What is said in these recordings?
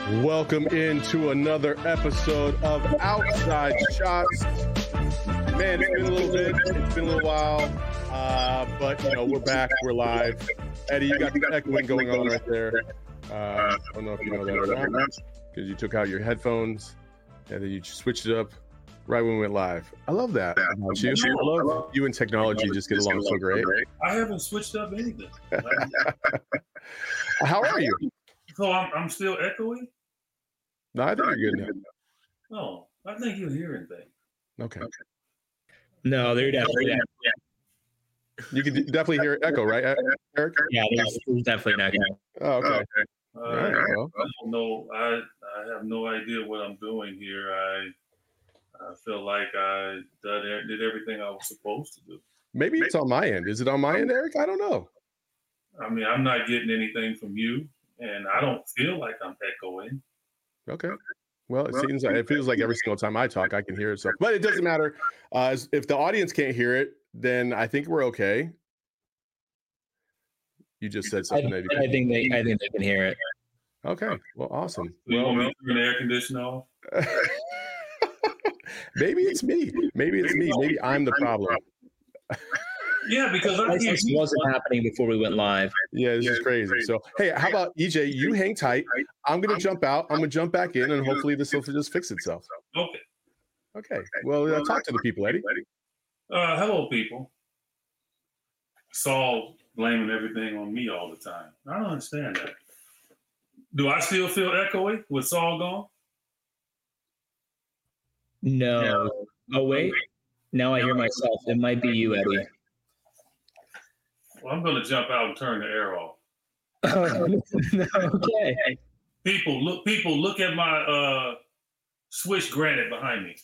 Welcome into another episode of Outside Shots. Man, it's been a little bit. It's been a little while. But, we're back. We're live. Eddie, you got the echoing going on right there. I don't know if you know that or not, because you took out your headphones and then you switched it up right when we went live. I love that. I love you and technology just get along so great. I haven't switched up anything. How are you? So I'm still echoing? No, I think you're good now. Oh, I think you're hearing things. Okay. No, they're definitely. You can definitely hear echo, right, Eric? Yeah, there's definitely an echo. Oh, okay. All right, well. I don't know. I have no idea what I'm doing here. I feel like I did everything I was supposed to do. Maybe it's on my end. Is it on my end, Eric? I don't know. I mean, I'm not getting anything from you, and I don't feel like I'm echoing. Okay. Well, it feels like every single time I talk, I can hear it. So, but it doesn't matter. If the audience can't hear it, then I think we're okay. You just said something. I think they can hear it. Okay. Well, awesome. You want me to turn the air conditioner off? Maybe it's me. Maybe I'm the problem. Yeah, because this wasn't happening before we went live. Yeah, this is crazy. So, hey, how about EJ? You hang tight. I'm going to jump out. I'm going to jump back in, and hopefully this will just fix itself. Okay. Well, talk to the people, Eddie. Hello, people. Saul blaming everything on me all the time. I don't understand that. Do I still feel echoey with Saul gone? No. Oh, wait. Now I hear myself. It might be you, Eddie. Well, I'm going to jump out and turn the air off. Okay. People, look at my Swiss granite behind me.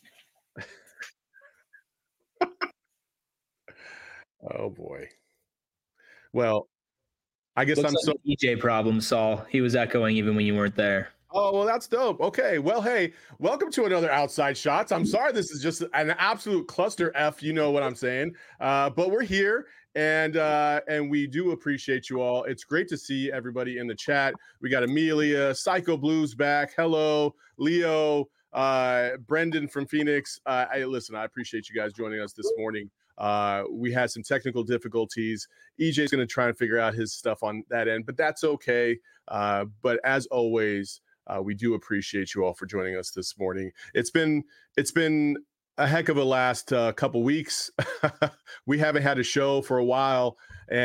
Oh boy. Well, I guess Looks like EJ problem, Saul. He was echoing even when you weren't there. Oh, well, that's dope. Okay. Well, hey, welcome to another Outside Shots. I'm sorry this is just an absolute cluster F, you know what I'm saying. But we're here and we do appreciate you all. It's great to see everybody in the chat. We got Amelia, Psycho Blues back. Hello, Leo, Brendan from Phoenix. I appreciate you guys joining us this morning. We had some technical difficulties. EJ's going to try and figure out his stuff on that end, but that's okay. But as always, we do appreciate you all for joining us this morning. It's been a heck of a last couple weeks. We haven't had a show for a while,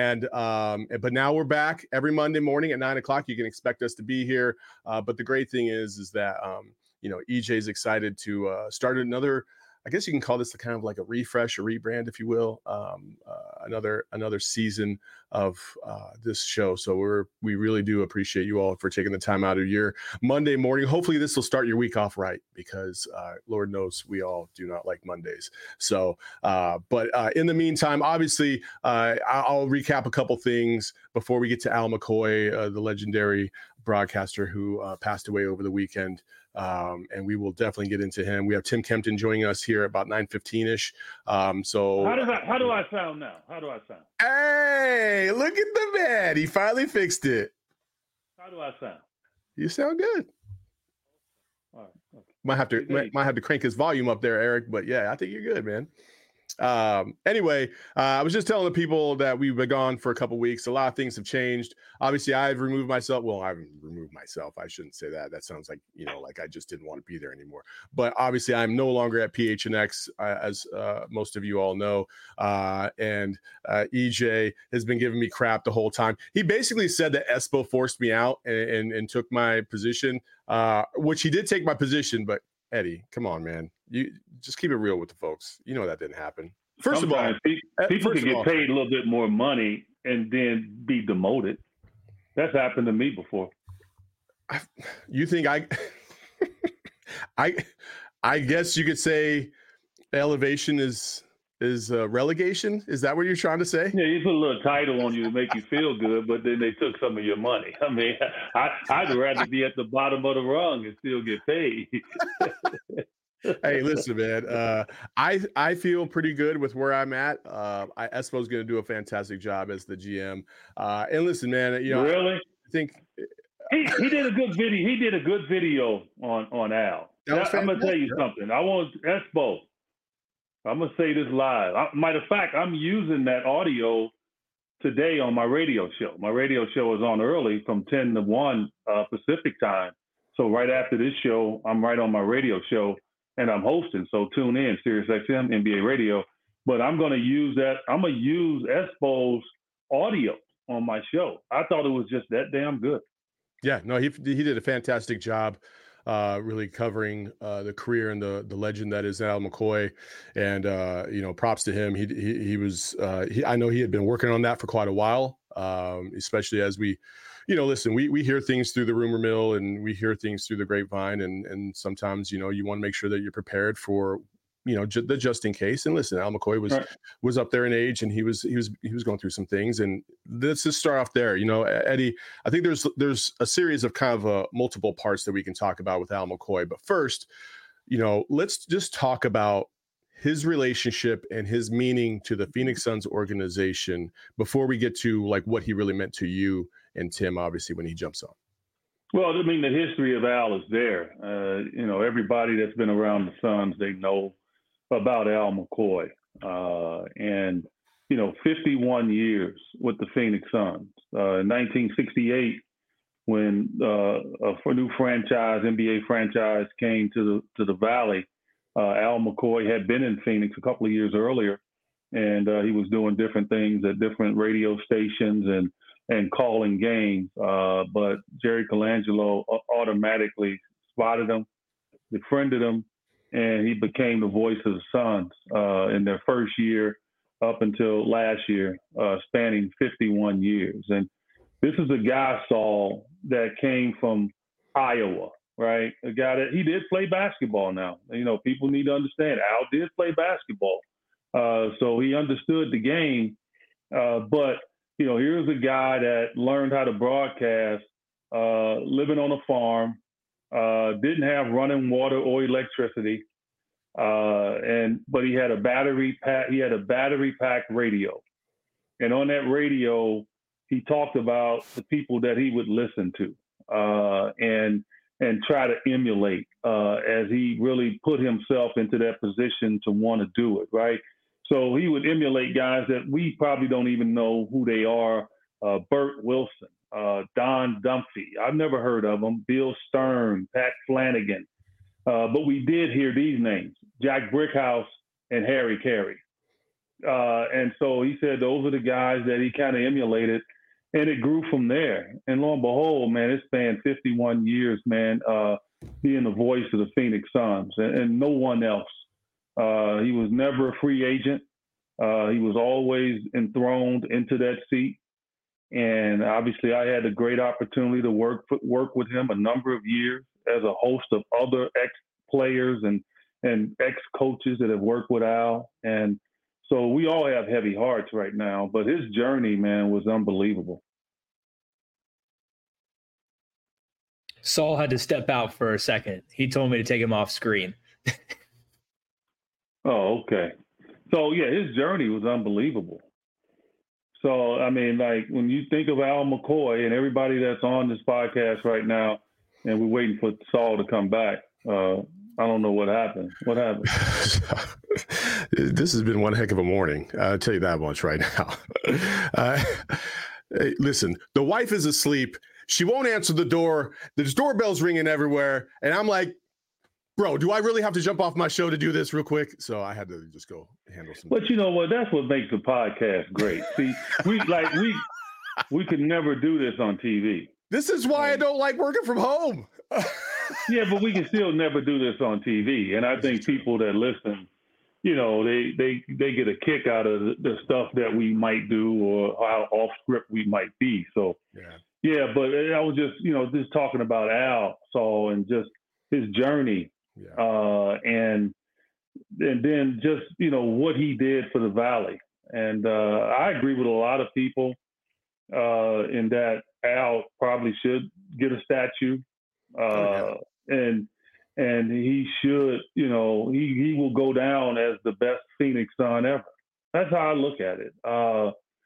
but now we're back every Monday morning at 9:00. You can expect us to be here. But the great thing is that EJ's excited to start another. I guess you can call this kind of like a refresh or rebrand, if you will, another season of this show. So we really do appreciate you all for taking the time out of your Monday morning. Hopefully this will start your week off right, because Lord knows we all do not like Mondays. So, but in the meantime, obviously, I'll recap a couple things before we get to Al McCoy, the legendary broadcaster who passed away over the weekend. And we will definitely get into him. We have Tim Kempton joining us here about 9:15-ish. So how do I sound now? How do I sound? Hey, look at the man. He finally fixed it. How do I sound? You sound good. All right. Okay. Might have to crank his volume up there, Eric. But yeah, I think you're good, man. Anyway, I was just telling the people that we've been gone for a couple weeks. A lot of things have changed. Obviously, I've removed myself. Well, I haven't removed myself. I shouldn't say that. That sounds like, like I just didn't want to be there anymore. But obviously, I'm no longer at PHNX, as most of you all know. And EJ has been giving me crap the whole time. He basically said that Espo forced me out and took my position, which he did take my position, but Eddie, come on, man. You just keep it real with the folks. You know that didn't happen. First of all, people can get paid a little bit more money and then be demoted. That's happened to me before. You think I guess you could say elevation is relegation? Is that what you're trying to say? Yeah, you put a little title on you to make you feel good, but then they took some of your money. I mean, I'd rather be at the bottom of the rung and still get paid. Hey, listen, man. I feel pretty good with where I'm at. Espo's going to do a fantastic job as the GM. And listen, man. Really? I think he did a good video. He did a good video on Al. I'm gonna tell you something. I want Espo. I'm gonna say this live. Matter of fact, I'm using that audio today on my radio show. My radio show is on early from 10 to 1 Pacific time. So right after this show, I'm right on my radio show and I'm hosting. So tune in, SiriusXM, NBA Radio. But I'm going to use that. I'm going to use Espo's audio on my show. I thought it was just that damn good. Yeah, no, he did a fantastic job. Really covering the career and the legend that is Al McCoy, and props to him. He was I know he had been working on that for quite a while, especially as we, listen, we hear things through the rumor mill and we hear things through the grapevine, and sometimes you want to make sure that you're prepared for the just in case. And listen, Al McCoy was up there in age, and he was going through some things. And let's just start off there. Eddie, I think there's a series of kind of multiple parts that we can talk about with Al McCoy. But first, let's just talk about his relationship and his meaning to the Phoenix Suns organization before we get to like what he really meant to you and Tim, obviously, when he jumps on. Well, I mean, the history of Al is there. Everybody that's been around the Suns, they know about Al McCoy, and 51 years with the Phoenix Suns. In 1968, when a new franchise, NBA franchise, came to the Valley, Al McCoy had been in Phoenix a couple of years earlier, and he was doing different things at different radio stations and calling games. But Jerry Colangelo automatically spotted him, befriended him, and he became the voice of the Suns in their first year up until last year, spanning 51 years. And this is a guy, Saul, that came from Iowa, right? A guy that he did play basketball now. People need to understand Al did play basketball. So he understood the game. But here's a guy that learned how to broadcast, living on a farm, didn't have running water or electricity, but he had a battery packed radio, and on that radio he talked about the people that he would listen to and try to emulate as he really put himself into that position to want to do it, right? So he would emulate guys that we probably don't even know who they are. Bert Wilson, Don Dumphy. I've never heard of him. Bill Stern, Pat Flanagan. But we did hear these names, Jack Brickhouse and Harry Carey. And so he said those are the guys that he kind of emulated, and it grew from there. And lo and behold, man, it spanned 51 years, man, being the voice of the Phoenix Suns and no one else. He was never a free agent. He was always enthroned into that seat. And obviously I had a great opportunity to work with him a number of years as a host of other ex-players and ex-coaches that have worked with Al. And so we all have heavy hearts right now, but his journey, man, was unbelievable. Saul had to step out for a second. He told me to take him off screen. Oh, okay. So, yeah, his journey was unbelievable. So, I mean, like, when you think of Al McCoy and everybody that's on this podcast right now, and we're waiting for Saul to come back, I don't know what happened. What happened? This has been one heck of a morning. I'll tell you that much right now. Hey, listen, the wife is asleep. She won't answer the door. There's doorbells ringing everywhere. And I'm like, bro, do I really have to jump off my show to do this real quick? So I had to just go handle some. But you know what? That's what makes the podcast great. See, we could never do this on TV. This is why I don't like working from home. Yeah, but we can still never do this on TV. And I think people that listen, they get a kick out of the stuff that we might do or how off script we might be. So yeah, but I was just talking about Al, Saul, and just his journey. Yeah. And then just, what he did for the Valley. And I agree with a lot of people in that Al probably should get a statue. And he should, he will go down as the best Phoenix Sun ever. That's how I look at it.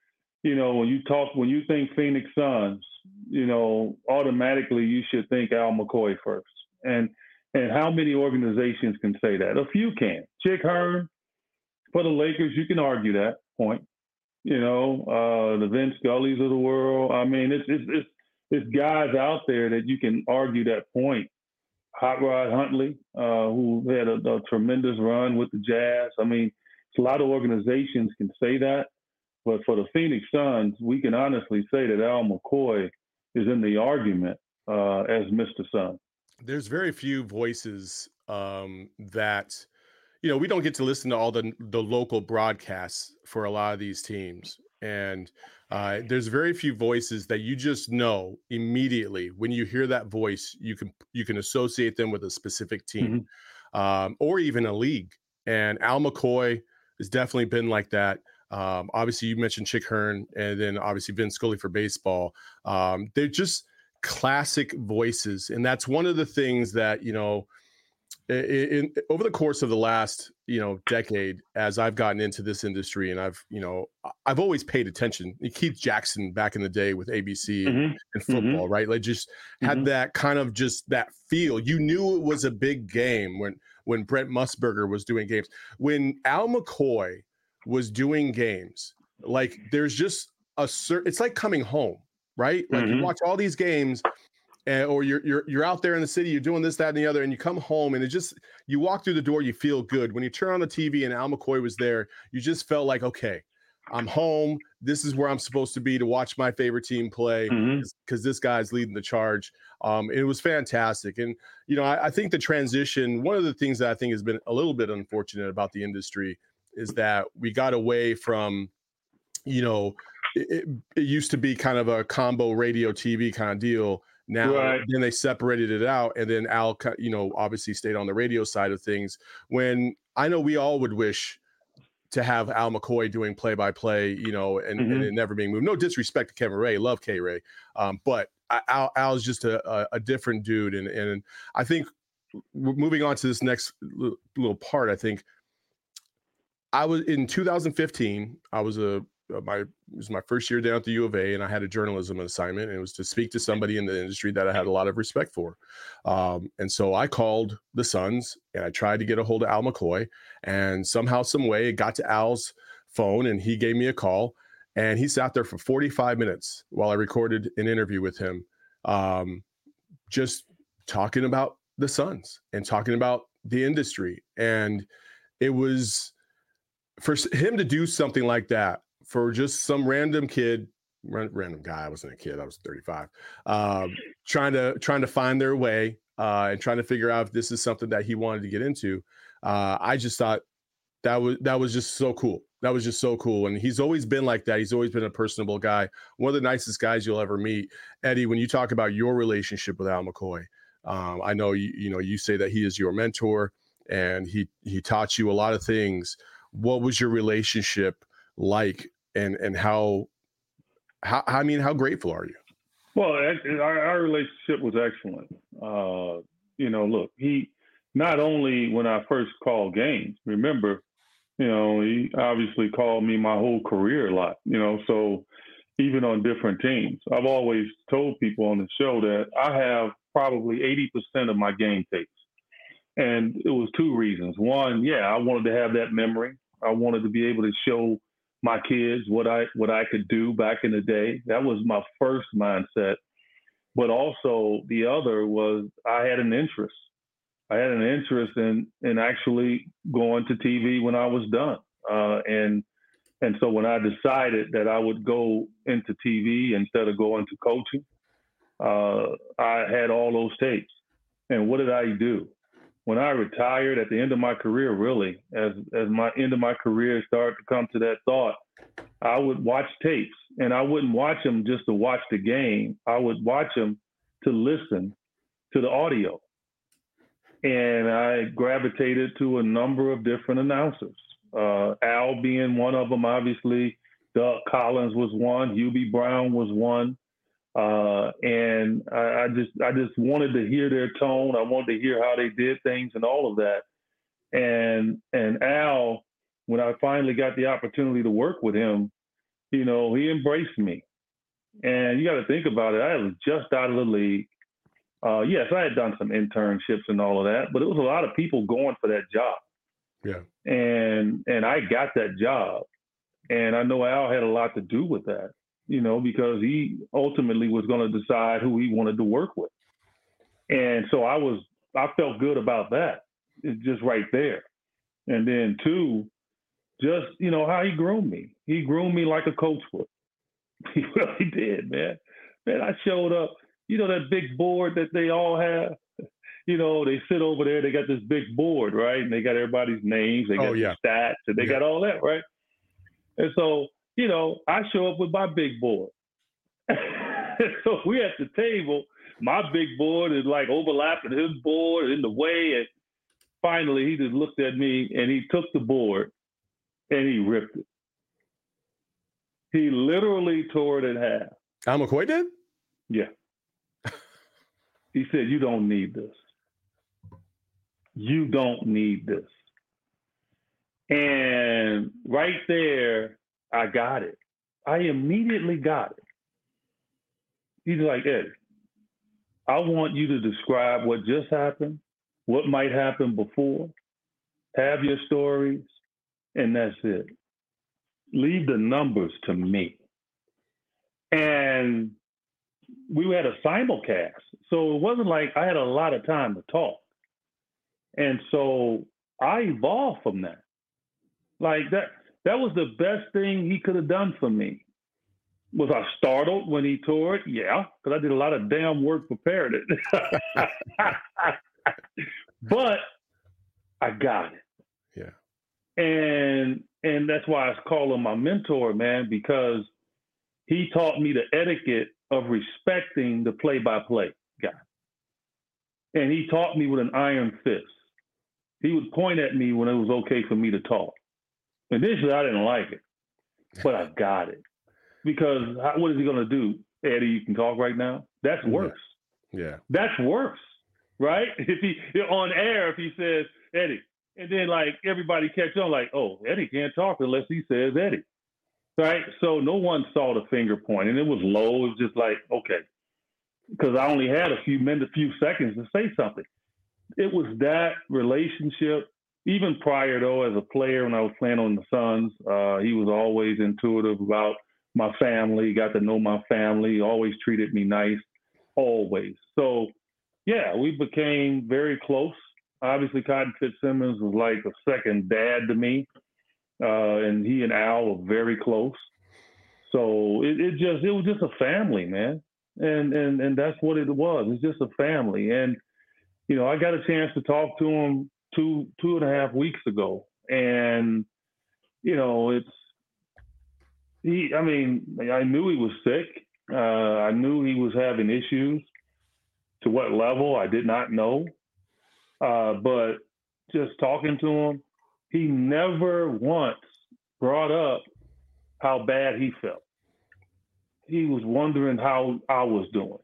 when you think Phoenix Suns, automatically you should think Al McCoy first. And how many organizations can say that? A few can. Chick Hearn for the Lakers, you can argue that point. The Vince Scullys of the world. I mean, it's guys out there that you can argue that point. Hot Rod Huntley, who had a tremendous run with the Jazz. I mean, a lot of organizations can say that. But for the Phoenix Suns, we can honestly say that Al McCoy is in the argument as Mr. Sun. There's very few voices that, we don't get to listen to all the local broadcasts for a lot of these teams. And there's very few voices that you just know immediately when you hear that voice, you can associate them with a specific team or even a league. And Al McCoy has definitely been like that. Obviously, you mentioned Chick Hearn, and then obviously Vince Scully for baseball. They're just classic voices, and that's one of the things that over the course of the last decade, as I've gotten into this industry, and I've always paid attention. Keith Jackson back in the day with ABC and football, right? Like just had that kind of just that feel. You knew it was a big game when Brent Musburger was doing games. When Al McCoy was doing games, like there's just it's like coming home, right? Like you watch all these games or you're out there in the city, you're doing this, that, and the other, and you come home and you walk through the door, you feel good. When you turn on the TV and Al McCoy was there, you just felt like, okay, I'm home. This is where I'm supposed to be to watch my favorite team play because this guy's leading the charge. It was fantastic. And, I think the transition, one of the things that I think has been a little bit unfortunate about the industry is that we got away from, it used to be kind of a combo radio TV kind of deal. Now, Then they separated it out, and then Al, obviously stayed on the radio side of things. When I know we all would wish to have Al McCoy doing play-by-play, and it never being moved. No disrespect to Kevin Ray, love K Ray, but Al's just a different dude, and I think moving on to this next little part, I think. I was in 2015. It was my first year down at the U of A, and I had a journalism assignment, and it was to speak to somebody in the industry that I had a lot of respect for. And so I called the Suns, and I tried to get a hold of Al McCoy, and somehow, some way, it got to Al's phone, and he gave me a call, and he sat there for 45 minutes while I recorded an interview with him, just talking about the Suns and talking about the industry. And it was, for him to do something like that for just some random guy, I wasn't a kid, I was 35, trying to find their way and trying to figure out if this is something that he wanted to get into. I just thought that was just so cool. That was just so cool. And he's always been like that. He's always been a personable guy, one of the nicest guys you'll ever meet. Eddie, when you talk about your relationship with Al McCoy, I know you say that he is your mentor and he taught you a lot of things. What was your relationship like, and how grateful are you? Well, our relationship was excellent. Look, he not only when I first called games, remember, he obviously called me my whole career a lot, so even on different teams. I've always told people on the show that I have probably 80% of my game tapes. And it was two reasons. One, I wanted to have that memory. I wanted to be able to show my kids what I could do back in the day. That was my first mindset. But also the other was I had an interest. I had an interest in actually going to TV when I was done. And so when I decided that I would go into TV instead of going to coaching, I had all those tapes. And what did I do? When I retired at the end of my career, really, as my end of my career started to come to that thought, I would watch tapes, and I wouldn't watch them just to watch the game. I would watch them to listen to the audio. And I gravitated to a number of different announcers, Al being one of them, obviously. Doug Collins was one. Hubie Brown was one. And I just wanted to hear their tone. I wanted to hear how they did things and all of that. And Al, when I finally got the opportunity to work with him, You know, he embraced me. And you got to think about it. I was just out of the league. Yes, I had done some internships and all of that, but it was a lot of people going for that job. Yeah. And I got that job. And I know Al had a lot to do with that, you know, because he ultimately was going to decide who he wanted to work with. And so I felt good about that. It's just right there. And then two, just, you know, how he groomed me. He groomed me like a coach would. He really did, man. Man, I showed up, you know, that big board that they all have. You know, they sit over there, they got this big board, right? And they got everybody's names, they got the stats, and they got all that, right? And so, you know, I show up with my big board. So we at the table, my big board is like overlapping his board in the way. And finally, he just looked at me and he took the board and he ripped it. He literally tore it in half. Al McCoy did? Yeah. He said, "You don't need this. You don't need this." And right there, I got it. I immediately got it. He's like, "Eddie, I want you to describe what just happened, what might happen before, have your stories, and that's it. Leave the numbers to me." And we had a simulcast. So it wasn't like I had a lot of time to talk. And so I evolved from that. Like that was the best thing he could have done for me. Was I startled when he tore it? Yeah, because I did a lot of damn work preparing it. But I got it. Yeah. And that's why I call him my mentor, man, because he taught me the etiquette of respecting the play-by-play guy. And he taught me with an iron fist. He would point at me when it was okay for me to talk. Initially, I didn't like it, but I got it. Because what is he going to do? "Eddie, you can talk right now?" That's worse. Yeah. That's worse, right? If he on air, if he says, "Eddie," and then like everybody catch on like, "Oh, Eddie can't talk unless he says Eddie." Right? So no one saw the finger point, and it was low. It was just like, okay, because I only had a few seconds to say something. It was that relationship. Even prior, though, as a player, when I was playing on the Suns, he was always intuitive about my family, got to know my family, always treated me nice, always. So, yeah, we became very close. Obviously, Cotton Fitzsimmons was like a second dad to me. And he and Al were very close. So it was just a family, man. And that's what it was. It's just a family. And, you know, I got a chance to talk to him two and a half weeks ago. And, you know, I knew he was sick. I knew he was having issues. To what level, I did not know. But just talking to him, he never once brought up how bad he felt. He was wondering how I was doing.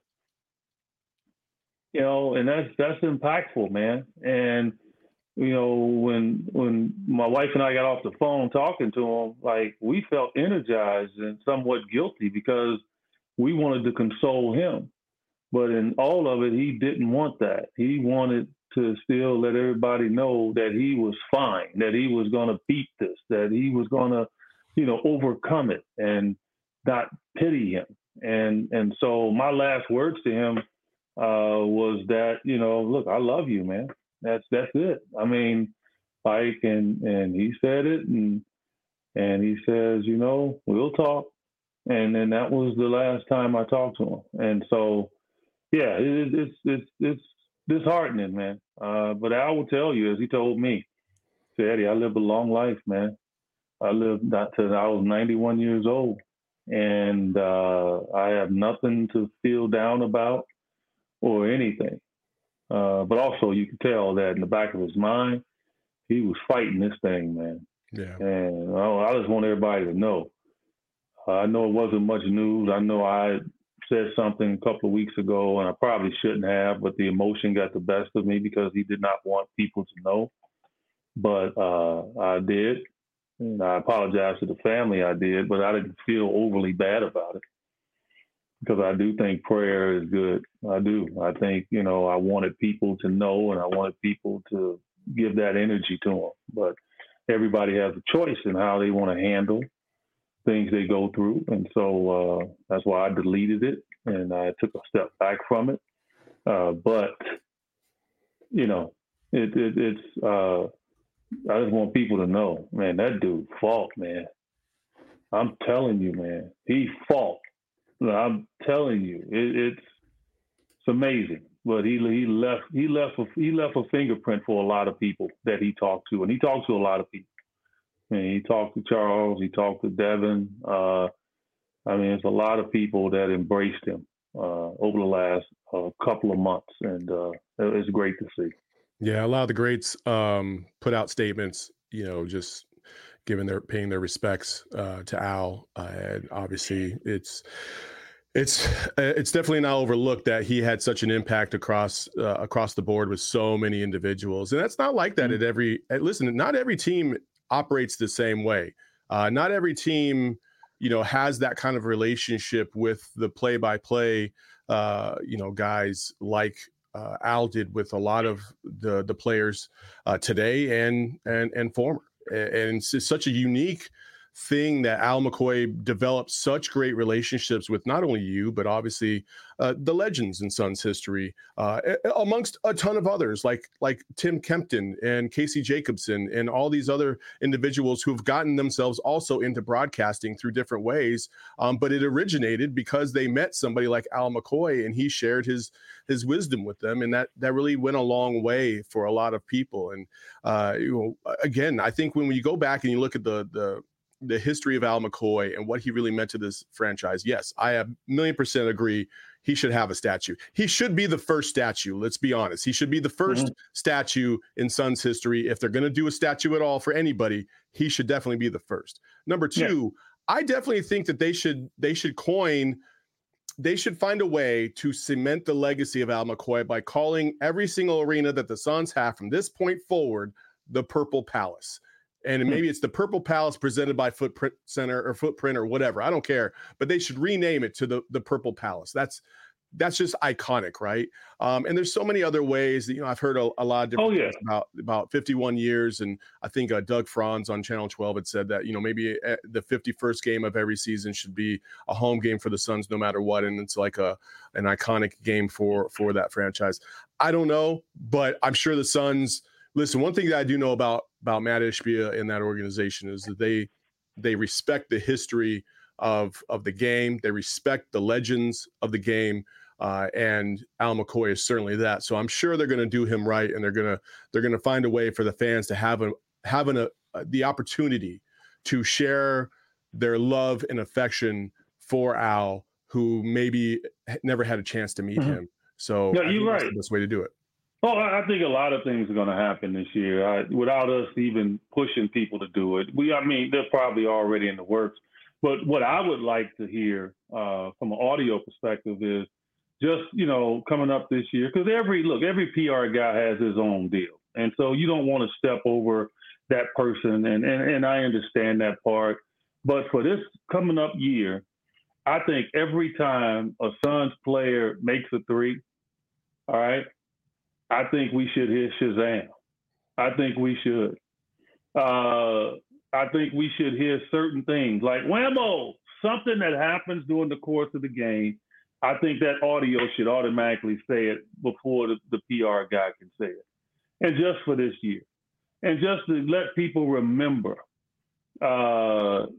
You know, and that's impactful, man. And, you know, when my wife and I got off the phone talking to him, like we felt energized and somewhat guilty because we wanted to console him. But in all of it, he didn't want that. He wanted to still let everybody know that he was fine, that he was going to beat this, that he was going to, you know, overcome it and not pity him. And so my last words to him was that, you know, look, I love you, man. That's it. I mean, like, and he said it, and he says, you know, we'll talk. And then that was the last time I talked to him. And so, yeah, it's disheartening, man. But I will tell you, as he told me, he said, "Eddie, I lived a long life, man. I lived till I was 91 years old. And I have nothing to feel down about or anything." But also you could tell that in the back of his mind, he was fighting this thing, man. Yeah. And I just want everybody to know. I know it wasn't much news. I know I said something a couple of weeks ago, and I probably shouldn't have, but the emotion got the best of me because he did not want people to know. But I did. And I apologize to the family I did, but I didn't feel overly bad about it because I do think prayer is good. I do. I think, I wanted people to know and I wanted people to give that energy to them. But everybody has a choice in how they want to handle things they go through. And so that's why I deleted it and I took a step back from it. But, it's I just want people to know, man, that dude fought, man. I'm telling you, man, he fought. I'm telling you, it's amazing. But he left a fingerprint for a lot of people that he talked to, and he talked to a lot of people. He talked to Charles, he talked to Devin. It's a lot of people that embraced him over the last couple of months, and it's great to see. Yeah, a lot of the greats put out statements, just paying their respects to Al, and obviously it's definitely not overlooked that he had such an impact across the board with so many individuals, and that's not like that at every. Listen, not every team operates the same way. Not every team, has that kind of relationship with the play-by-play, guys like Al did with a lot of the players today and former. And it's such a unique thing that Al McCoy developed such great relationships with not only you, but obviously the legends in Suns history, amongst a ton of others like Tim Kempton and Casey Jacobson and all these other individuals who've gotten themselves also into broadcasting through different ways. But it originated because they met somebody like Al McCoy and he shared his wisdom with them. And that really went a long way for a lot of people. And, again, I think when you go back and you look at the history of Al McCoy and what he really meant to this franchise, yes, I 1,000,000% agree. He should have a statue. He should be the first statue. Let's be honest. He should be the first statue in Suns history. If they're going to do a statue at all for anybody, he should definitely be the first. Number two, I definitely think that they should find a way to cement the legacy of Al McCoy by calling every single arena that the Suns have from this point forward the Purple Palace. And maybe it's the Purple Palace presented by Footprint Center or Footprint or whatever. I don't care. But they should rename it to the Purple Palace. That's just iconic, right? And there's so many other ways that, I've heard a lot of different things about 51 years. And I think Doug Franz on Channel 12 had said that, maybe the 51st game of every season should be a home game for the Suns no matter what. And it's like an iconic game for that franchise. I don't know, but I'm sure the Suns – listen, one thing that I do know about Matt Ishbia and that organization is that they respect the history of the game. They respect the legends of the game, and Al McCoy is certainly that. So I'm sure they're going to do him right, and they're going to find a way for the fans to have the opportunity to share their love and affection for Al, who maybe never had a chance to meet him. So no, you're right. That's the best way to do it. Oh, I think a lot of things are going to happen this year without us even pushing people to do it. They're probably already in the works. But what I would like to hear from an audio perspective is just, coming up this year, because every PR guy has his own deal. And so you don't want to step over that person. And I understand that part. But for this coming up year, I think every time a Suns player makes a three, all right, I think we should hear Shazam. I think we should. I think we should hear certain things like whammo, something that happens during the course of the game. I think that audio should automatically say it before the PR guy can say it. And just for this year. And just to let people remember, the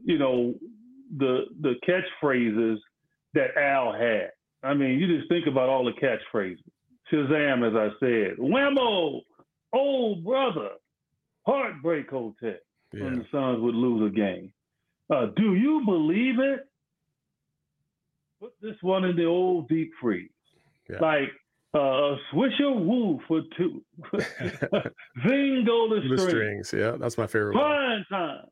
catchphrases that Al had. You just think about all the catchphrases. Shazam, as I said, whammo, old brother, heartbreak hotel. When the Suns would lose a game. Do you believe it? Put this one in the old deep freeze. Yeah. Like Swisher Woo for two. Zing go the strings. Yeah, that's my favorite one. Fine time.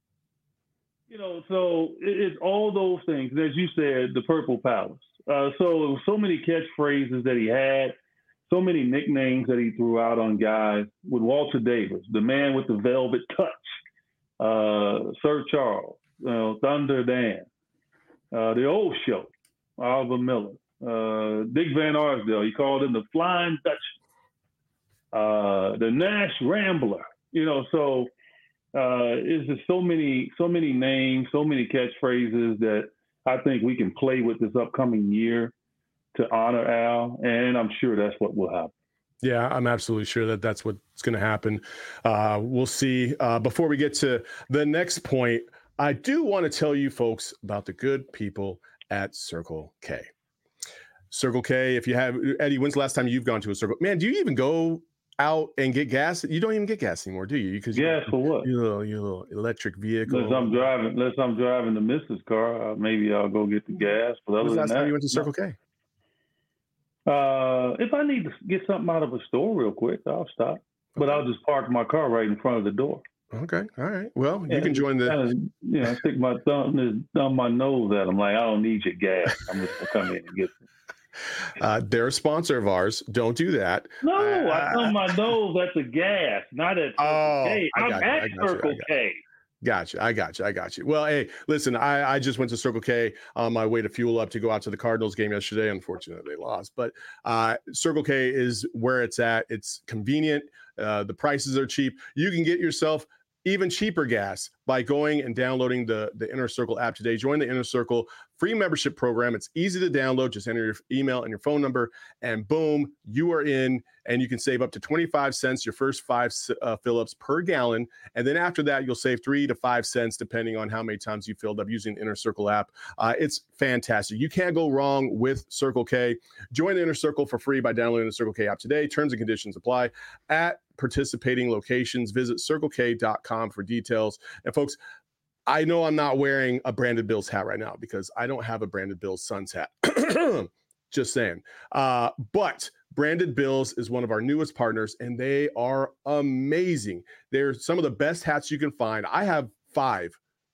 So it's all those things. And as you said, the Purple Palace. So many catchphrases that he had. So many nicknames that he threw out on guys with Walter Davis, the man with the velvet touch. Sir Charles, Thunder Dan, the Old Show, Oliver Miller, Dick Van Arsdale. He called him the Flying Dutchman, the Nash Rambler. So it's just so many names, so many catchphrases that I think we can play with this upcoming year to honor Al, and I'm sure that's what will happen. Yeah, I'm absolutely sure that that's what's going to happen. We'll see. Before we get to the next point, I do want to tell you folks about the good people at Circle K. Circle K, if you have, Eddie, when's the last time you've gone to a Circle? Man, do you even go out and get gas? You don't even get gas anymore, do you? Because gas for what? Your little electric vehicle. Unless I'm driving the missus' car, maybe I'll go get the gas. But when's the last time you went to Circle K? If I need to get something out of a store real quick, I'll stop. Okay. But I'll just park my car right in front of the door. Okay. All right. Well, you can join the. I stick my thumb my nose at them like, I don't need your gas. I'm just gonna come in and get it. They're a sponsor of ours. Don't do that. No, I thumb my nose at the gas, not at Circle K. I'm at Circle K. Gotcha. I got you. Well, hey, listen, I just went to Circle K on my way to fuel up to go out to the Cardinals game yesterday. Unfortunately, they lost. But Circle K is where it's at. It's convenient. The prices are cheap. You can get yourself even cheaper gas by going and downloading the Inner Circle app today. Join the Inner Circle free membership program. It's easy to download. Just enter your email and your phone number, and boom, you are in. And you can save up to 25 cents your first 5 fill-ups per gallon. And then after that, you'll save 3 to 5 cents depending on how many times you filled up using the Inner Circle app. It's fantastic. You can't go wrong with Circle K. Join the Inner Circle for free by downloading the Circle K app today. Terms and conditions apply at participating locations. Visit circlek.com for details. And folks, I know I'm not wearing a Branded Bills hat right now because I don't have a Branded Bills Suns hat. Just saying. But Branded Bills is one of our newest partners, and they are amazing. They're some of the best hats you can find. I have five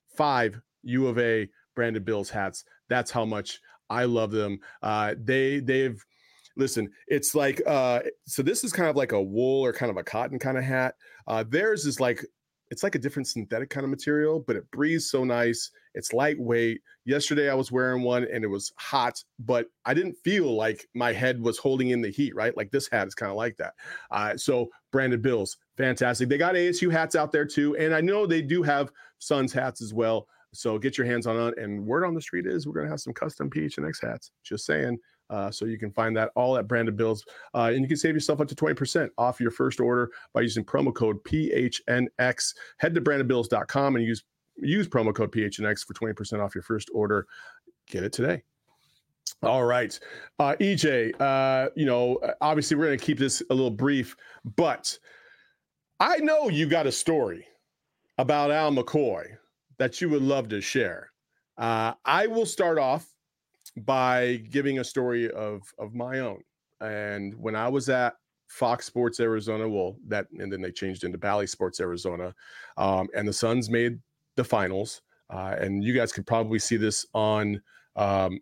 U of A Branded Bills hats. That's how much I love them. They've listen, it's like, so this is kind of like a wool or kind of a cotton kind of hat. Theirs is like, it's like a different synthetic kind of material, but it breathes so nice. It's lightweight. Yesterday I was wearing one and it was hot, but I didn't feel like my head was holding in the heat, right? Like this hat is kind of like that. So Branded Bills, fantastic. They got ASU hats out there too. And I know they do have Suns hats as well. So get your hands on it. And word on the street is we're going to have some custom PHNX hats. Just saying. So you can find that all at Branded Bills. And you can save yourself up to 20% off your first order by using promo code PHNX. Head to brandedbills.com and use promo code PHNX for 20% off your first order. Get it today. All right. EJ, obviously we're going to keep this a little brief, but I know you got a story about Al McCoy that you would love to share. I will start off by giving a story of my own. And when I was at Fox Sports Arizona, and then they changed into Bally Sports Arizona, and the Suns made the finals. And you guys could probably see this on my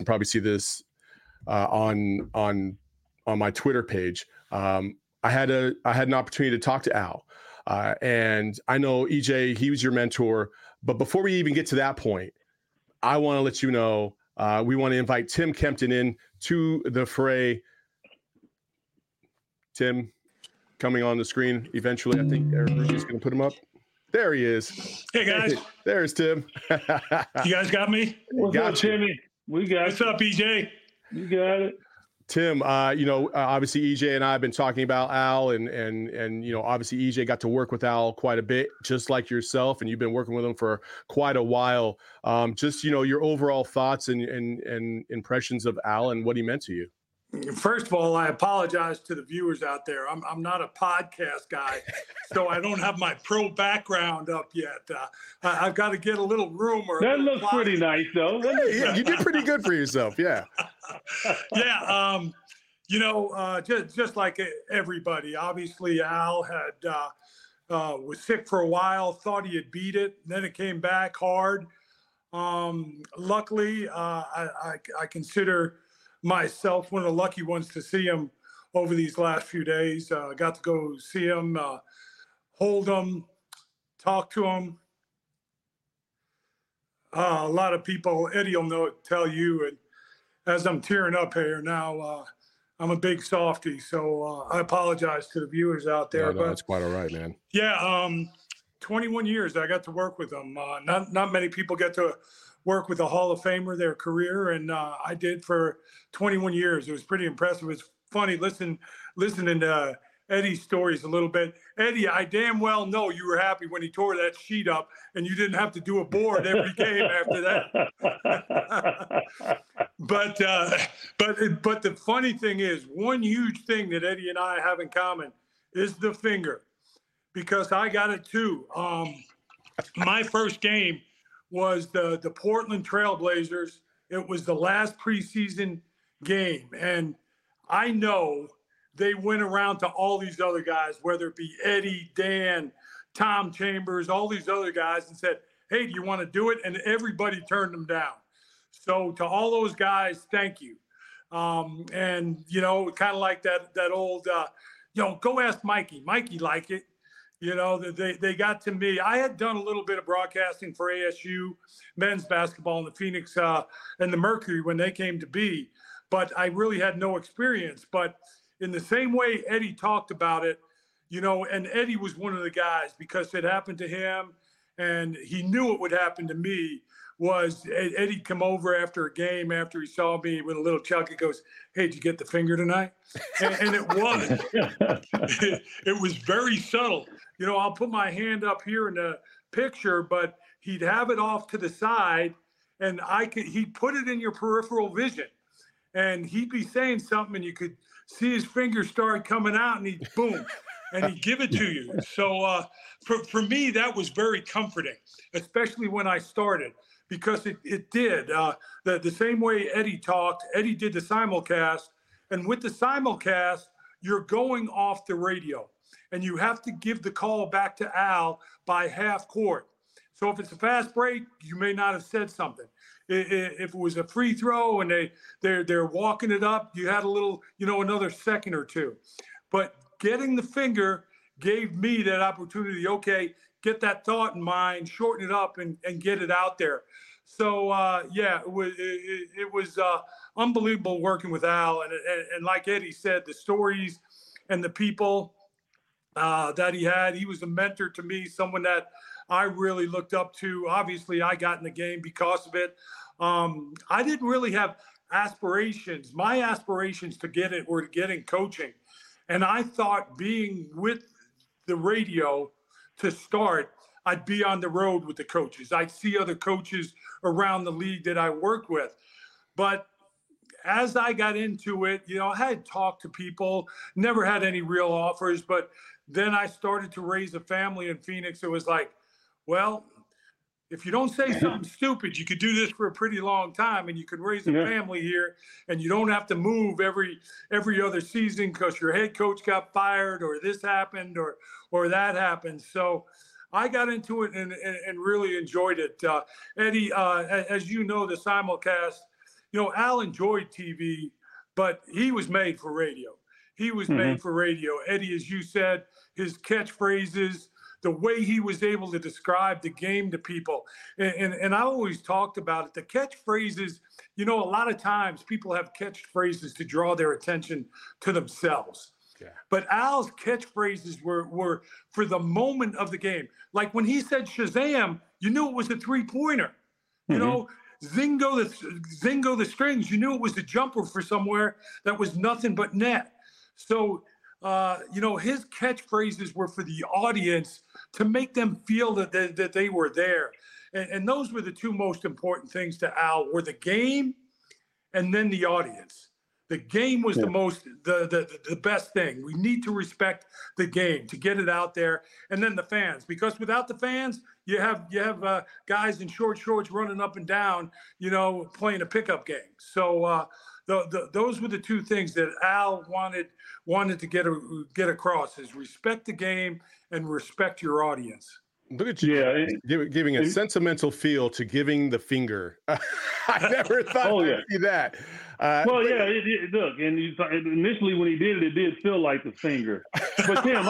Twitter page. I had an opportunity to talk to Al, and I know EJ, he was your mentor. But before we even get to that point, I want to let you know. We want to invite Tim Kempton in to the fray. Tim coming on the screen eventually. I think Rudy's going to put him up. There he is. Hey, guys. There's Tim. You guys got me? What's up, Timmy? We got What's up, EJ? You got it. Tim, obviously EJ and I have been talking about Al, and obviously EJ got to work with Al quite a bit, just like yourself, and you've been working with him for quite a while. Just your overall thoughts and impressions of Al and what he meant to you. First of all, I apologize to the viewers out there. I'm not a podcast guy, so I don't have my pro background up yet. I've got to get a little room. That looks pretty nice, though. Yeah, you did pretty good for yourself. Yeah. Yeah. Just like everybody, obviously Al was sick for a while, thought he had beat it. Then it came back hard. Luckily, I consider myself one of the lucky ones to see him over these last few days. Got to go see him, hold him, talk to him, A lot of people, Eddie will tell you, and as I'm tearing up here now, I'm a big softie, so I apologize to the viewers out there. No, that's quite all right, man. Yeah, 21 years I got to work with them. Not many people get to work with a Hall of Famer their career, and I did for 21 years. It was pretty impressive. It's funny listening to Eddie's stories a little bit. Eddie, I damn well know you were happy when he tore that sheet up and you didn't have to do a board every game after that. But the funny thing is, one huge thing that Eddie and I have in common is the finger, because I got it too. My first game was the Portland Trailblazers. It was the last preseason game, and I know they went around to all these other guys, whether it be Eddie, Dan, Tom Chambers, all these other guys, and said, hey, do you want to do it? And everybody turned them down. So to all those guys, thank you. And, you know, kind of like that old, go ask Mikey. Mikey like it. You know, they got to me. I had done a little bit of broadcasting for ASU men's basketball in the Phoenix and the Mercury when they came to be, but I really had no experience. But in the same way Eddie talked about it, you know, and Eddie was one of the guys, because it happened to him and he knew it would happen to me, was Eddie come over after a game, after he saw me with a little chuck, he goes, hey, did you get the finger tonight? And it was. It was very subtle. You know, I'll put my hand up here in the picture, but he'd have it off to the side, and he'd put it in your peripheral vision, and he'd be saying something, and you could see his fingers start coming out, and he'd boom, and he'd give it to you. So for me, that was very comforting, especially when I started, because it did. The same way Eddie talked, Eddie did the simulcast, and with the simulcast, you're going off the radio, and you have to give the call back to Al by half court. So if it's a fast break, you may not have said something. If it was a free throw and they're walking it up, you had a little, you know, another second or two. But getting the finger gave me that opportunity. Okay, get that thought in mind, shorten it up, and get it out there. So yeah, it was unbelievable working with Al, and like Eddie said, the stories and the people that he had. He was a mentor to me, someone that I really looked up to. Obviously, I got in the game because of it. I didn't really have aspirations. My aspirations to get it were to get in coaching. And I thought being with the radio to start, I'd be on the road with the coaches. I'd see other coaches around the league that I worked with. But as I got into it, you know, I had talked to people, never had any real offers, but then I started to raise a family in Phoenix. It was like, well, if you don't say something stupid, you could do this for a pretty long time, and you could raise a family here, and you don't have to move every other season because your head coach got fired, or this happened, or that happened. So I got into it and really enjoyed it. Eddie, as you know, the simulcast, you know, Al enjoyed TV, but he was made for radio. He was made for radio. Eddie, as you said, his catchphrases, the way he was able to describe the game to people. And I always talked about it. The catchphrases, you know, a lot of times people have catchphrases to draw their attention to themselves. Yeah. But Al's catchphrases were for the moment of the game. Like when he said Shazam, you knew it was a three-pointer. You know, Zingo the strings, you knew it was a jumper for somewhere that was nothing but net. So, you know, his catchphrases were for the audience to make them feel that they were there. And those were the two most important things to Al, were the game and then the audience. The game was the best thing. We need to respect the game to get it out there, and then the fans, because without the fans, you have guys in short shorts running up and down, you know, playing a pickup game. So those were the two things that Al wanted to get across: is respect the game and respect your audience. Look at you, giving a sentimental feel to giving the finger. I never thought I'd see that. Look, and initially when he did it, it did feel like the finger. But Tim,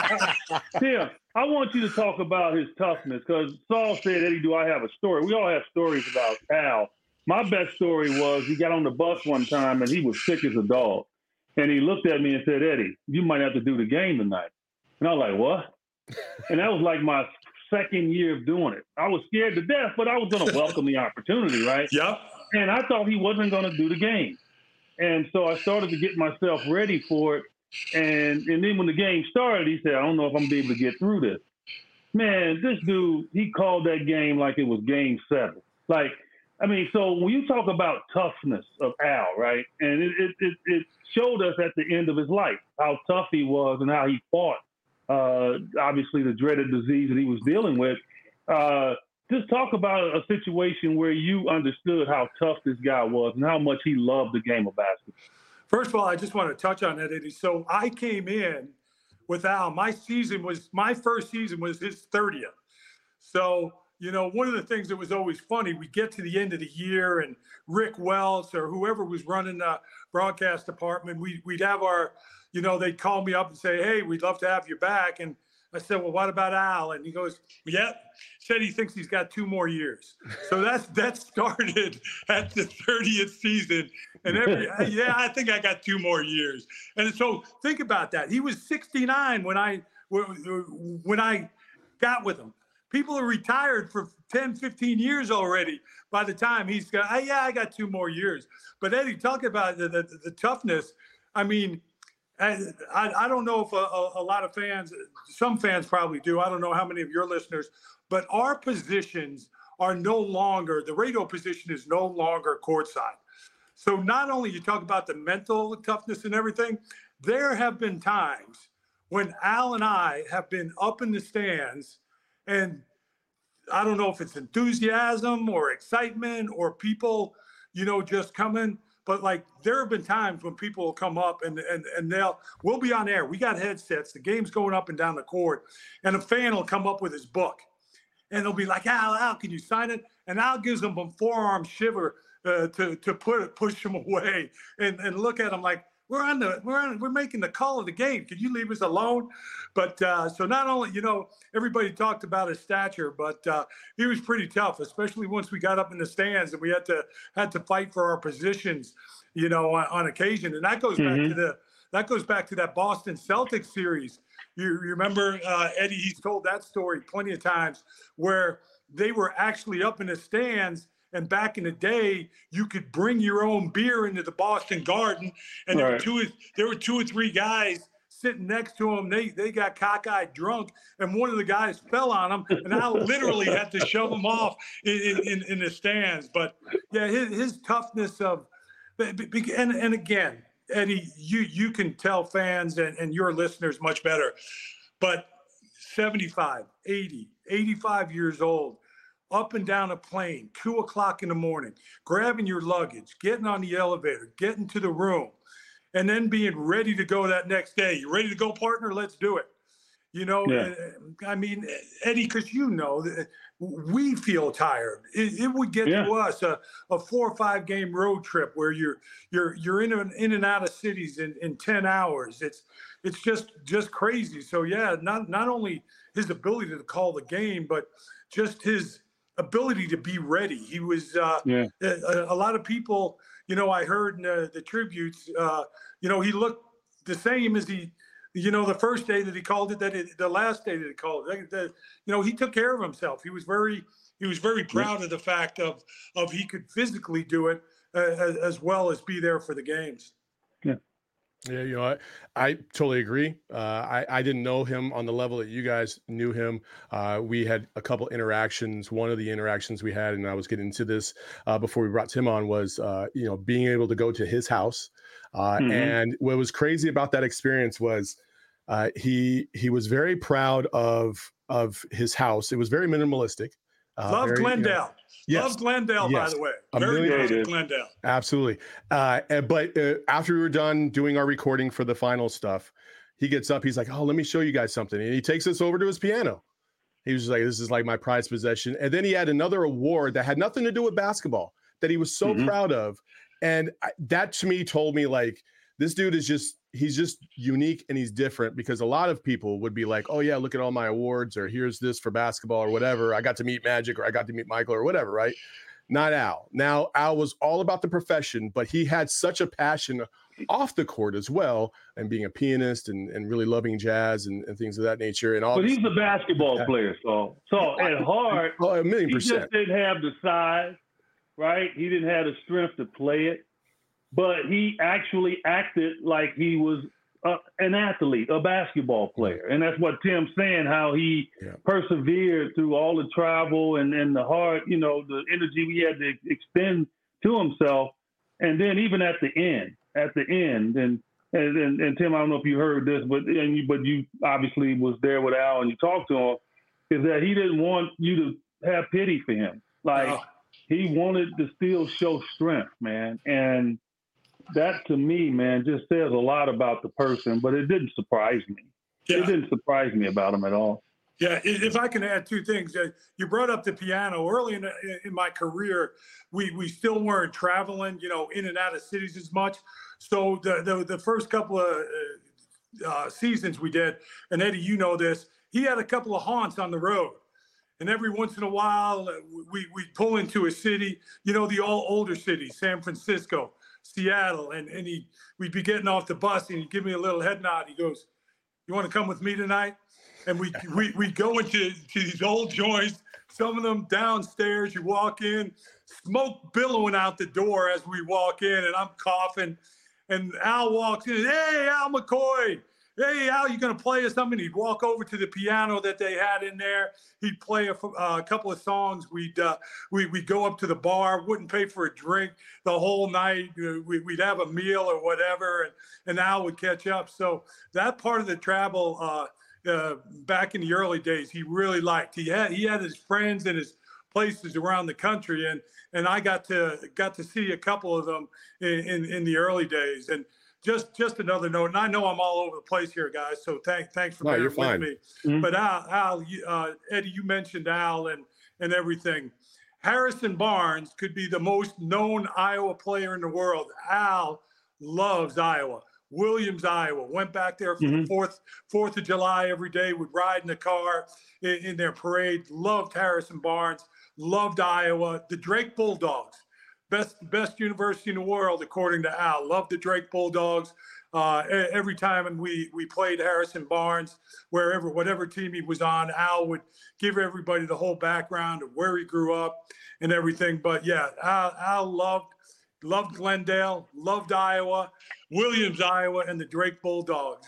I want you to talk about his toughness because Saul said, Eddie, do I have a story? We all have stories about Al. My best story was he got on the bus one time and he was sick as a dog. And he looked at me and said, Eddie, you might have to do the game tonight. And I was like, what? And that was like my second year of doing it. I was scared to death, but I was going to welcome the opportunity, right? Yep. And I thought he wasn't going to do the game. And so I started to get myself ready for it. And then when the game started, he said, I don't know if I'm going to be able to get through this. Man, this dude, he called that game like it was game 7. Like, I mean, so when you talk about toughness of Al, right, and it showed us at the end of his life how tough he was and how he fought, obviously, the dreaded disease that he was dealing with. Just talk about a situation where you understood how tough this guy was and how much he loved the game of basketball. First of all, I just want to touch on that, Eddie. So I came in with Al. My first season was his 30th. So, you know, one of the things that was always funny, we get to the end of the year and Rick Wells or whoever was running the broadcast department, we'd have our, you know, they'd call me up and say, hey, we'd love to have you back. And I said, well, what about Al? And he goes, yeah, said he thinks he's got 2 more years. So that started at the 30th season. And I think I got 2 more years. And so think about that. He was 69 when I got with him. People are retired for 10, 15 years already by the time he's got, I got 2 more years. But Eddie, talk about the toughness. I mean, I don't know if a lot of fans, some fans probably do. I don't know how many of your listeners, but our positions are no longer, the radio position is no longer courtside. So not only you talk about the mental toughness and everything, there have been times when Al and I have been up in the stands and I don't know if it's enthusiasm or excitement or people, you know, just coming. But like there have been times when people will come up and we'll be on air. We got headsets. The game's going up and down the court, and a fan will come up with his book, and they'll be like, "Al, can you sign it?" And Al gives them a forearm shiver to push them away, and look at them like we're making the call of the game. Can you leave us alone? But so not only, you know, everybody talked about his stature, but he was pretty tough, especially once we got up in the stands and we had to fight for our positions, you know, on occasion. And that goes back to that Boston Celtics series. You remember, Eddie? He's told that story plenty of times where they were actually up in the stands. And back in the day, you could bring your own beer into the Boston Garden, and there were 2 or 3 guys sitting next to him. They got cockeyed drunk, and one of the guys fell on him, and I literally had to shove him off in the stands. But yeah, his toughness and again, Eddie, you can tell fans and your listeners much better, but 75, 80, 85 years old, up and down a plane, 2 o'clock in the morning, grabbing your luggage, getting on the elevator, getting to the room, and then being ready to go that next day. You ready to go, partner? Let's do it. You know, yeah. I mean, Eddie, because you know, we feel tired. It would get to us a 4 or 5 game road trip where you're in and out of cities in 10 hours. It's just crazy. So yeah, not only his ability to call the game, but just his ability to be ready. He was a lot of people, you know, I heard in the tributes, you know, he looked the same as he, you know, the first day that he called it, the last day that he called it, you know, he took care of himself. He was very proud of the fact of he could physically do it as well as be there for the games. Yeah. Yeah, you know, I totally agree. I didn't know him on the level that you guys knew him. We had a couple interactions. One of the interactions we had, and I was getting into this before we brought Tim on, was you know, being able to go to his house. And what was crazy about that experience was he was very proud of his house. It was very minimalistic. Love Glendale. You know, yes. Love Glendale, by the way. Very proud of Glendale. Absolutely. But after we were done doing our recording for the final stuff, he gets up. He's like, "Oh, let me show you guys something." And he takes us over to his piano. He was like, "This is like my prized possession." And then he had another award that had nothing to do with basketball that he was so proud of. And that to me told me, like, this dude is just, he's just unique and he's different, because a lot of people would be like, oh yeah, look at all my awards, or here's this for basketball or whatever. I got to meet Magic, or I got to meet Michael, or whatever, right? Not Al. Now, Al was all about the profession, but he had such a passion off the court as well, and being a pianist and really loving jazz and things of that nature. And all. But he's a basketball player, so at heart, a million he percent. just didn't have the size, right? He didn't have the strength to play it, but he actually acted like he was an athlete, a basketball player. And that's what Tim's saying, how he persevered through all the travel and the hard, the energy he had to extend to himself. And then even at the end, and Tim, I don't know if you heard this, but you obviously was there with Al and you talked to him, is that he didn't want you to have pity for him. Like, he wanted to still show strength, man. And that, to me, man, just says a lot about the person, but it didn't surprise me. Yeah. It didn't surprise me about him at all. Yeah, if I can add two things. You brought up the piano. Early in my career, we still weren't traveling, in and out of cities as much. So the first couple of seasons we did, and Eddie, you know this, he had a couple of haunts on the road. And every once in a while, we'd pull into a city, the all older cities, San Francisco, Seattle, and we'd be getting off the bus, and he'd give me a little head nod. He goes, "You want to come with me tonight?" And we go into these old joints, some of them downstairs. You walk in, smoke billowing out the door as we walk in, and I'm coughing. And Al walks in, "Hey, Al McCoy. Hey, Al, you going to play us something?" He'd walk over to the piano that they had in there. He'd play a couple of songs. We'd go up to the bar, wouldn't pay for a drink the whole night. We'd have a meal or whatever, and Al would catch up. So that part of the travel back in the early days, he really liked. He had his friends and his places around the country, and I got to see a couple of them in the early days. And just another note, and I know I'm all over the place here, guys, so thanks for being with me. Mm-hmm. But Al, Eddie, you mentioned Al and everything. Harrison Barnes could be the most known Iowa player in the world. Al loves Iowa. Williams, Iowa. Went back there for the 4th of July every day. Would ride in the car in their parade. Loved Harrison Barnes. Loved Iowa. The Drake Bulldogs. Best university in the world, according to Al. Loved the Drake Bulldogs. Every time we played Harrison Barnes, whatever team he was on, Al would give everybody the whole background of where he grew up and everything. But yeah, Al loved Glendale, loved Iowa, Williams, Iowa, and the Drake Bulldogs.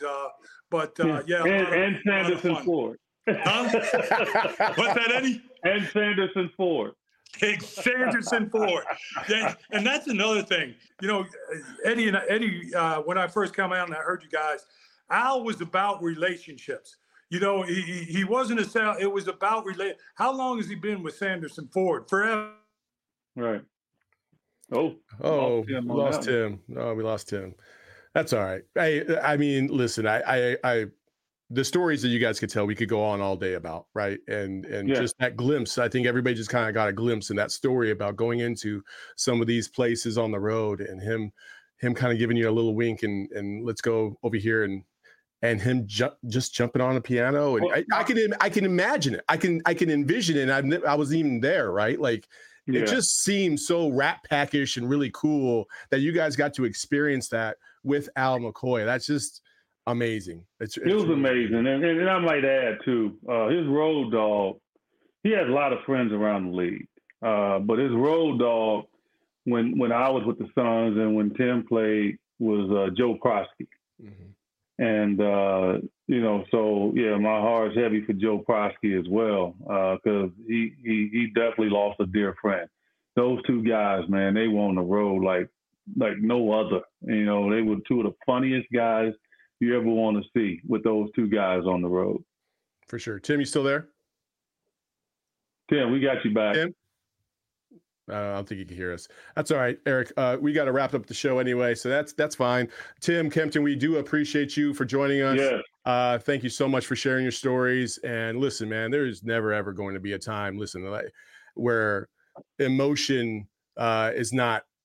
And Sanderson Ford. Huh? What's that, Eddie? And Sanderson Ford. Sanderson Ford. Yeah, and that's another thing. Eddie, when I first came out and I heard you guys, Al was about relationships. He wasn't it was about How long has he been with Sanderson Ford? Forever. Right. We lost him. Oh, we lost him. That's all right. I mean, listen, I the stories that you guys could tell, we could go on all day about, right? And just that glimpse, I think everybody just kind of got a glimpse in that story about going into some of these places on the road, and him kind of giving you a little wink and let's go over here, and him just jumping on a piano. And I can imagine it. I can envision it. And I was even there, right? Like, it just seems so Rat Pack-ish and really cool that you guys got to experience that with Al McCoy. That's just amazing. It was amazing. And I might add, too, his road dog, he has a lot of friends around the league. But his road dog, when I was with the Suns and when Tim played, was Joe Prosky. Mm-hmm. And, my heart's heavy for Joe Prosky as well, because he definitely lost a dear friend. Those two guys, man, they were on the road like no other. They were two of the funniest guys you ever want to see, with those two guys on the road. For sure. Tim, you still there? Tim, we got you back. Tim? I don't think you can hear us. That's all right, Eric. We got to wrap up the show anyway, so that's fine. Tim Kempton, we do appreciate you for joining us. Yeah. Thank you so much for sharing your stories. And listen, man, there's never ever going to be a time, where emotion is not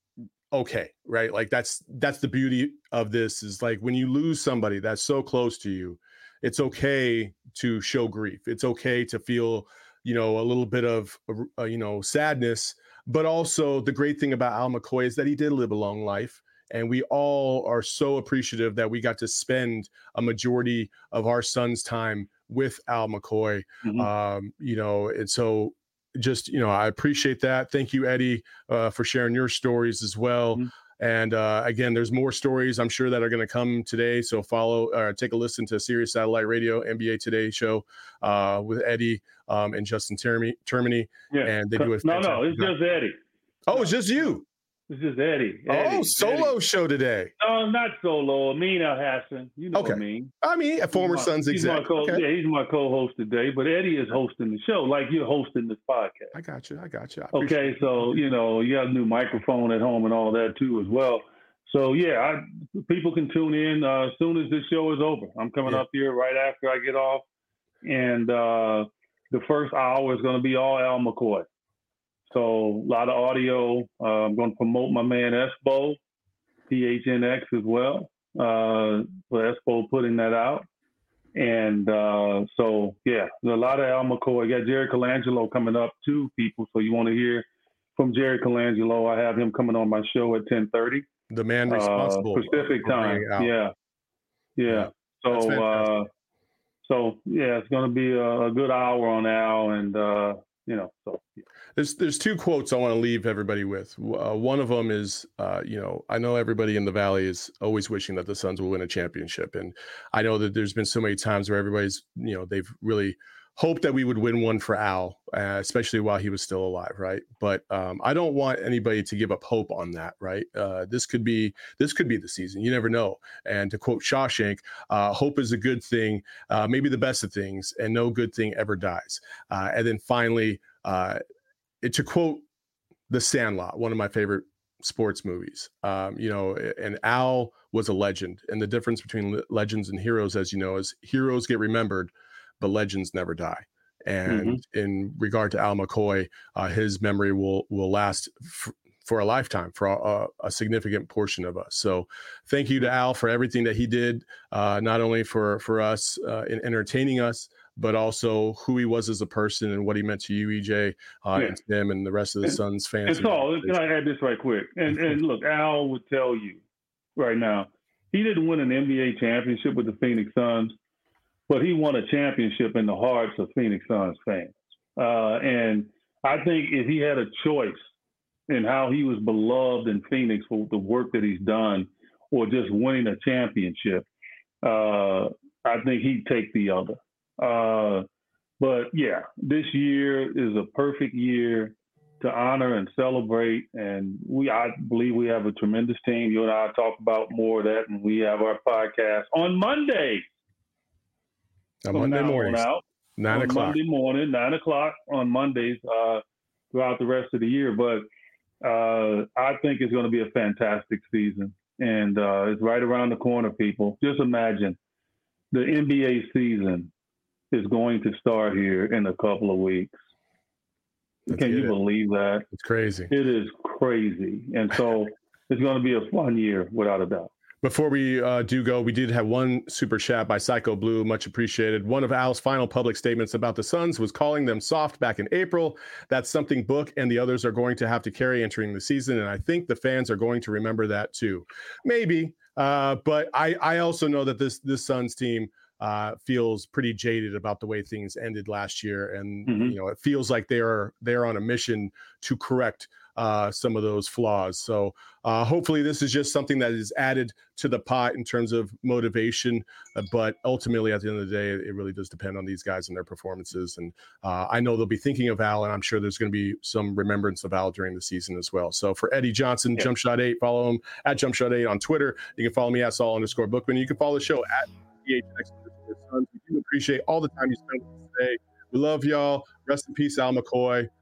okay, right? Like that's the beauty of this, is like when you lose somebody that's so close to you, it's okay to show grief. It's okay to feel, a little bit of, sadness. But also the great thing about Al McCoy is that he did live a long life. And we all are so appreciative that we got to spend a majority of our son's time with Al McCoy. And so just, I appreciate that. Thank you, Eddie, for sharing your stories as well. And again, there's more stories I'm sure that are going to come today. So take a listen to Sirius Satellite Radio NBA Today show with Eddie and Justin Termini. Yeah. And they do it's just Eddie. Oh, it's just you. It's just Eddie. Solo show today. No, not solo. Amin Al-Hassan. You know Amin. A former Suns exec. Yeah, he's my co-host today, but Eddie is hosting the show like you're hosting this podcast. I got you. Okay, so, you got a new microphone at home and all that too as well. So, yeah, people can tune in as soon as this show is over. I'm coming up here right after I get off, and the first hour is going to be all Al McCoy. So a lot of audio. I'm going to promote my man Espo, PHNX as well. For Espo putting that out. And so, yeah, there's a lot of Al McCoy. I got Jerry Colangelo coming up too, people. So you want to hear from Jerry Colangelo. I have him coming on my show at 10:30. The man responsible. Pacific time. Yeah. So it's going to be a good hour on Al, and There's two quotes I want to leave everybody with. One of them is, I know everybody in the Valley is always wishing that the Suns will win a championship. And I know that there's been so many times where everybody's, they've really hoped that we would win one for Al, especially while he was still alive, right? But I don't want anybody to give up hope on that, right? This could be the season. You never know. And to quote Shawshank, hope is a good thing, maybe the best of things, and no good thing ever dies. And then finally, to quote The Sandlot, one of my favorite sports movies, and Al was a legend. And the difference between legends and heroes, as you know, is heroes get remembered, but legends never die. And in regard to Al McCoy, his memory will last for a lifetime, for a significant portion of us. So thank you to Al for everything that he did, not only for us in entertaining us, but also who he was as a person and what he meant to you, EJ, and Tim, and the rest of the Suns fans. And so, can I add this right quick? And look, Al would tell you right now, he didn't win an NBA championship with the Phoenix Suns, but he won a championship in the hearts of Phoenix Suns fans. And I think if he had a choice in how he was beloved in Phoenix for the work that he's done, or just winning a championship, I think he'd take the other. But yeah, this year is a perfect year to honor and celebrate. And I believe we have a tremendous team. You and I talk about more of that, and we have our podcast on Monday. On Monday morning, 9 o'clock. Monday morning, 9 o'clock on Mondays throughout the rest of the year. But I think it's going to be a fantastic season. And it's right around the corner, people. Just imagine the NBA season is going to start here in a couple of weeks. Can you believe that? It's crazy. It is crazy. And so it's going to be a fun year, without a doubt. Before we do go, we did have one super chat by Psycho Blue, much appreciated. One of Al's final public statements about the Suns was calling them soft back in April. That's something Book and the others are going to have to carry entering the season, and I think the fans are going to remember that too. Maybe, but I also know that this Suns team feels pretty jaded about the way things ended last year, and it feels like they're on a mission to correct some of those flaws. So hopefully this is just something that is added to the pot in terms of motivation, but ultimately at the end of the day, it really does depend on these guys and their performances. And I know they'll be thinking of Al, and I'm sure there's going to be some remembrance of Al during the season as well. So for Eddie Johnson, Jumpshot8, follow him at Jumpshot8 on Twitter. You can follow me at Saul_Bookman. You can follow the show at PHNX. We do appreciate all the time you spent with us today. We love y'all. Rest in peace, Al McCoy.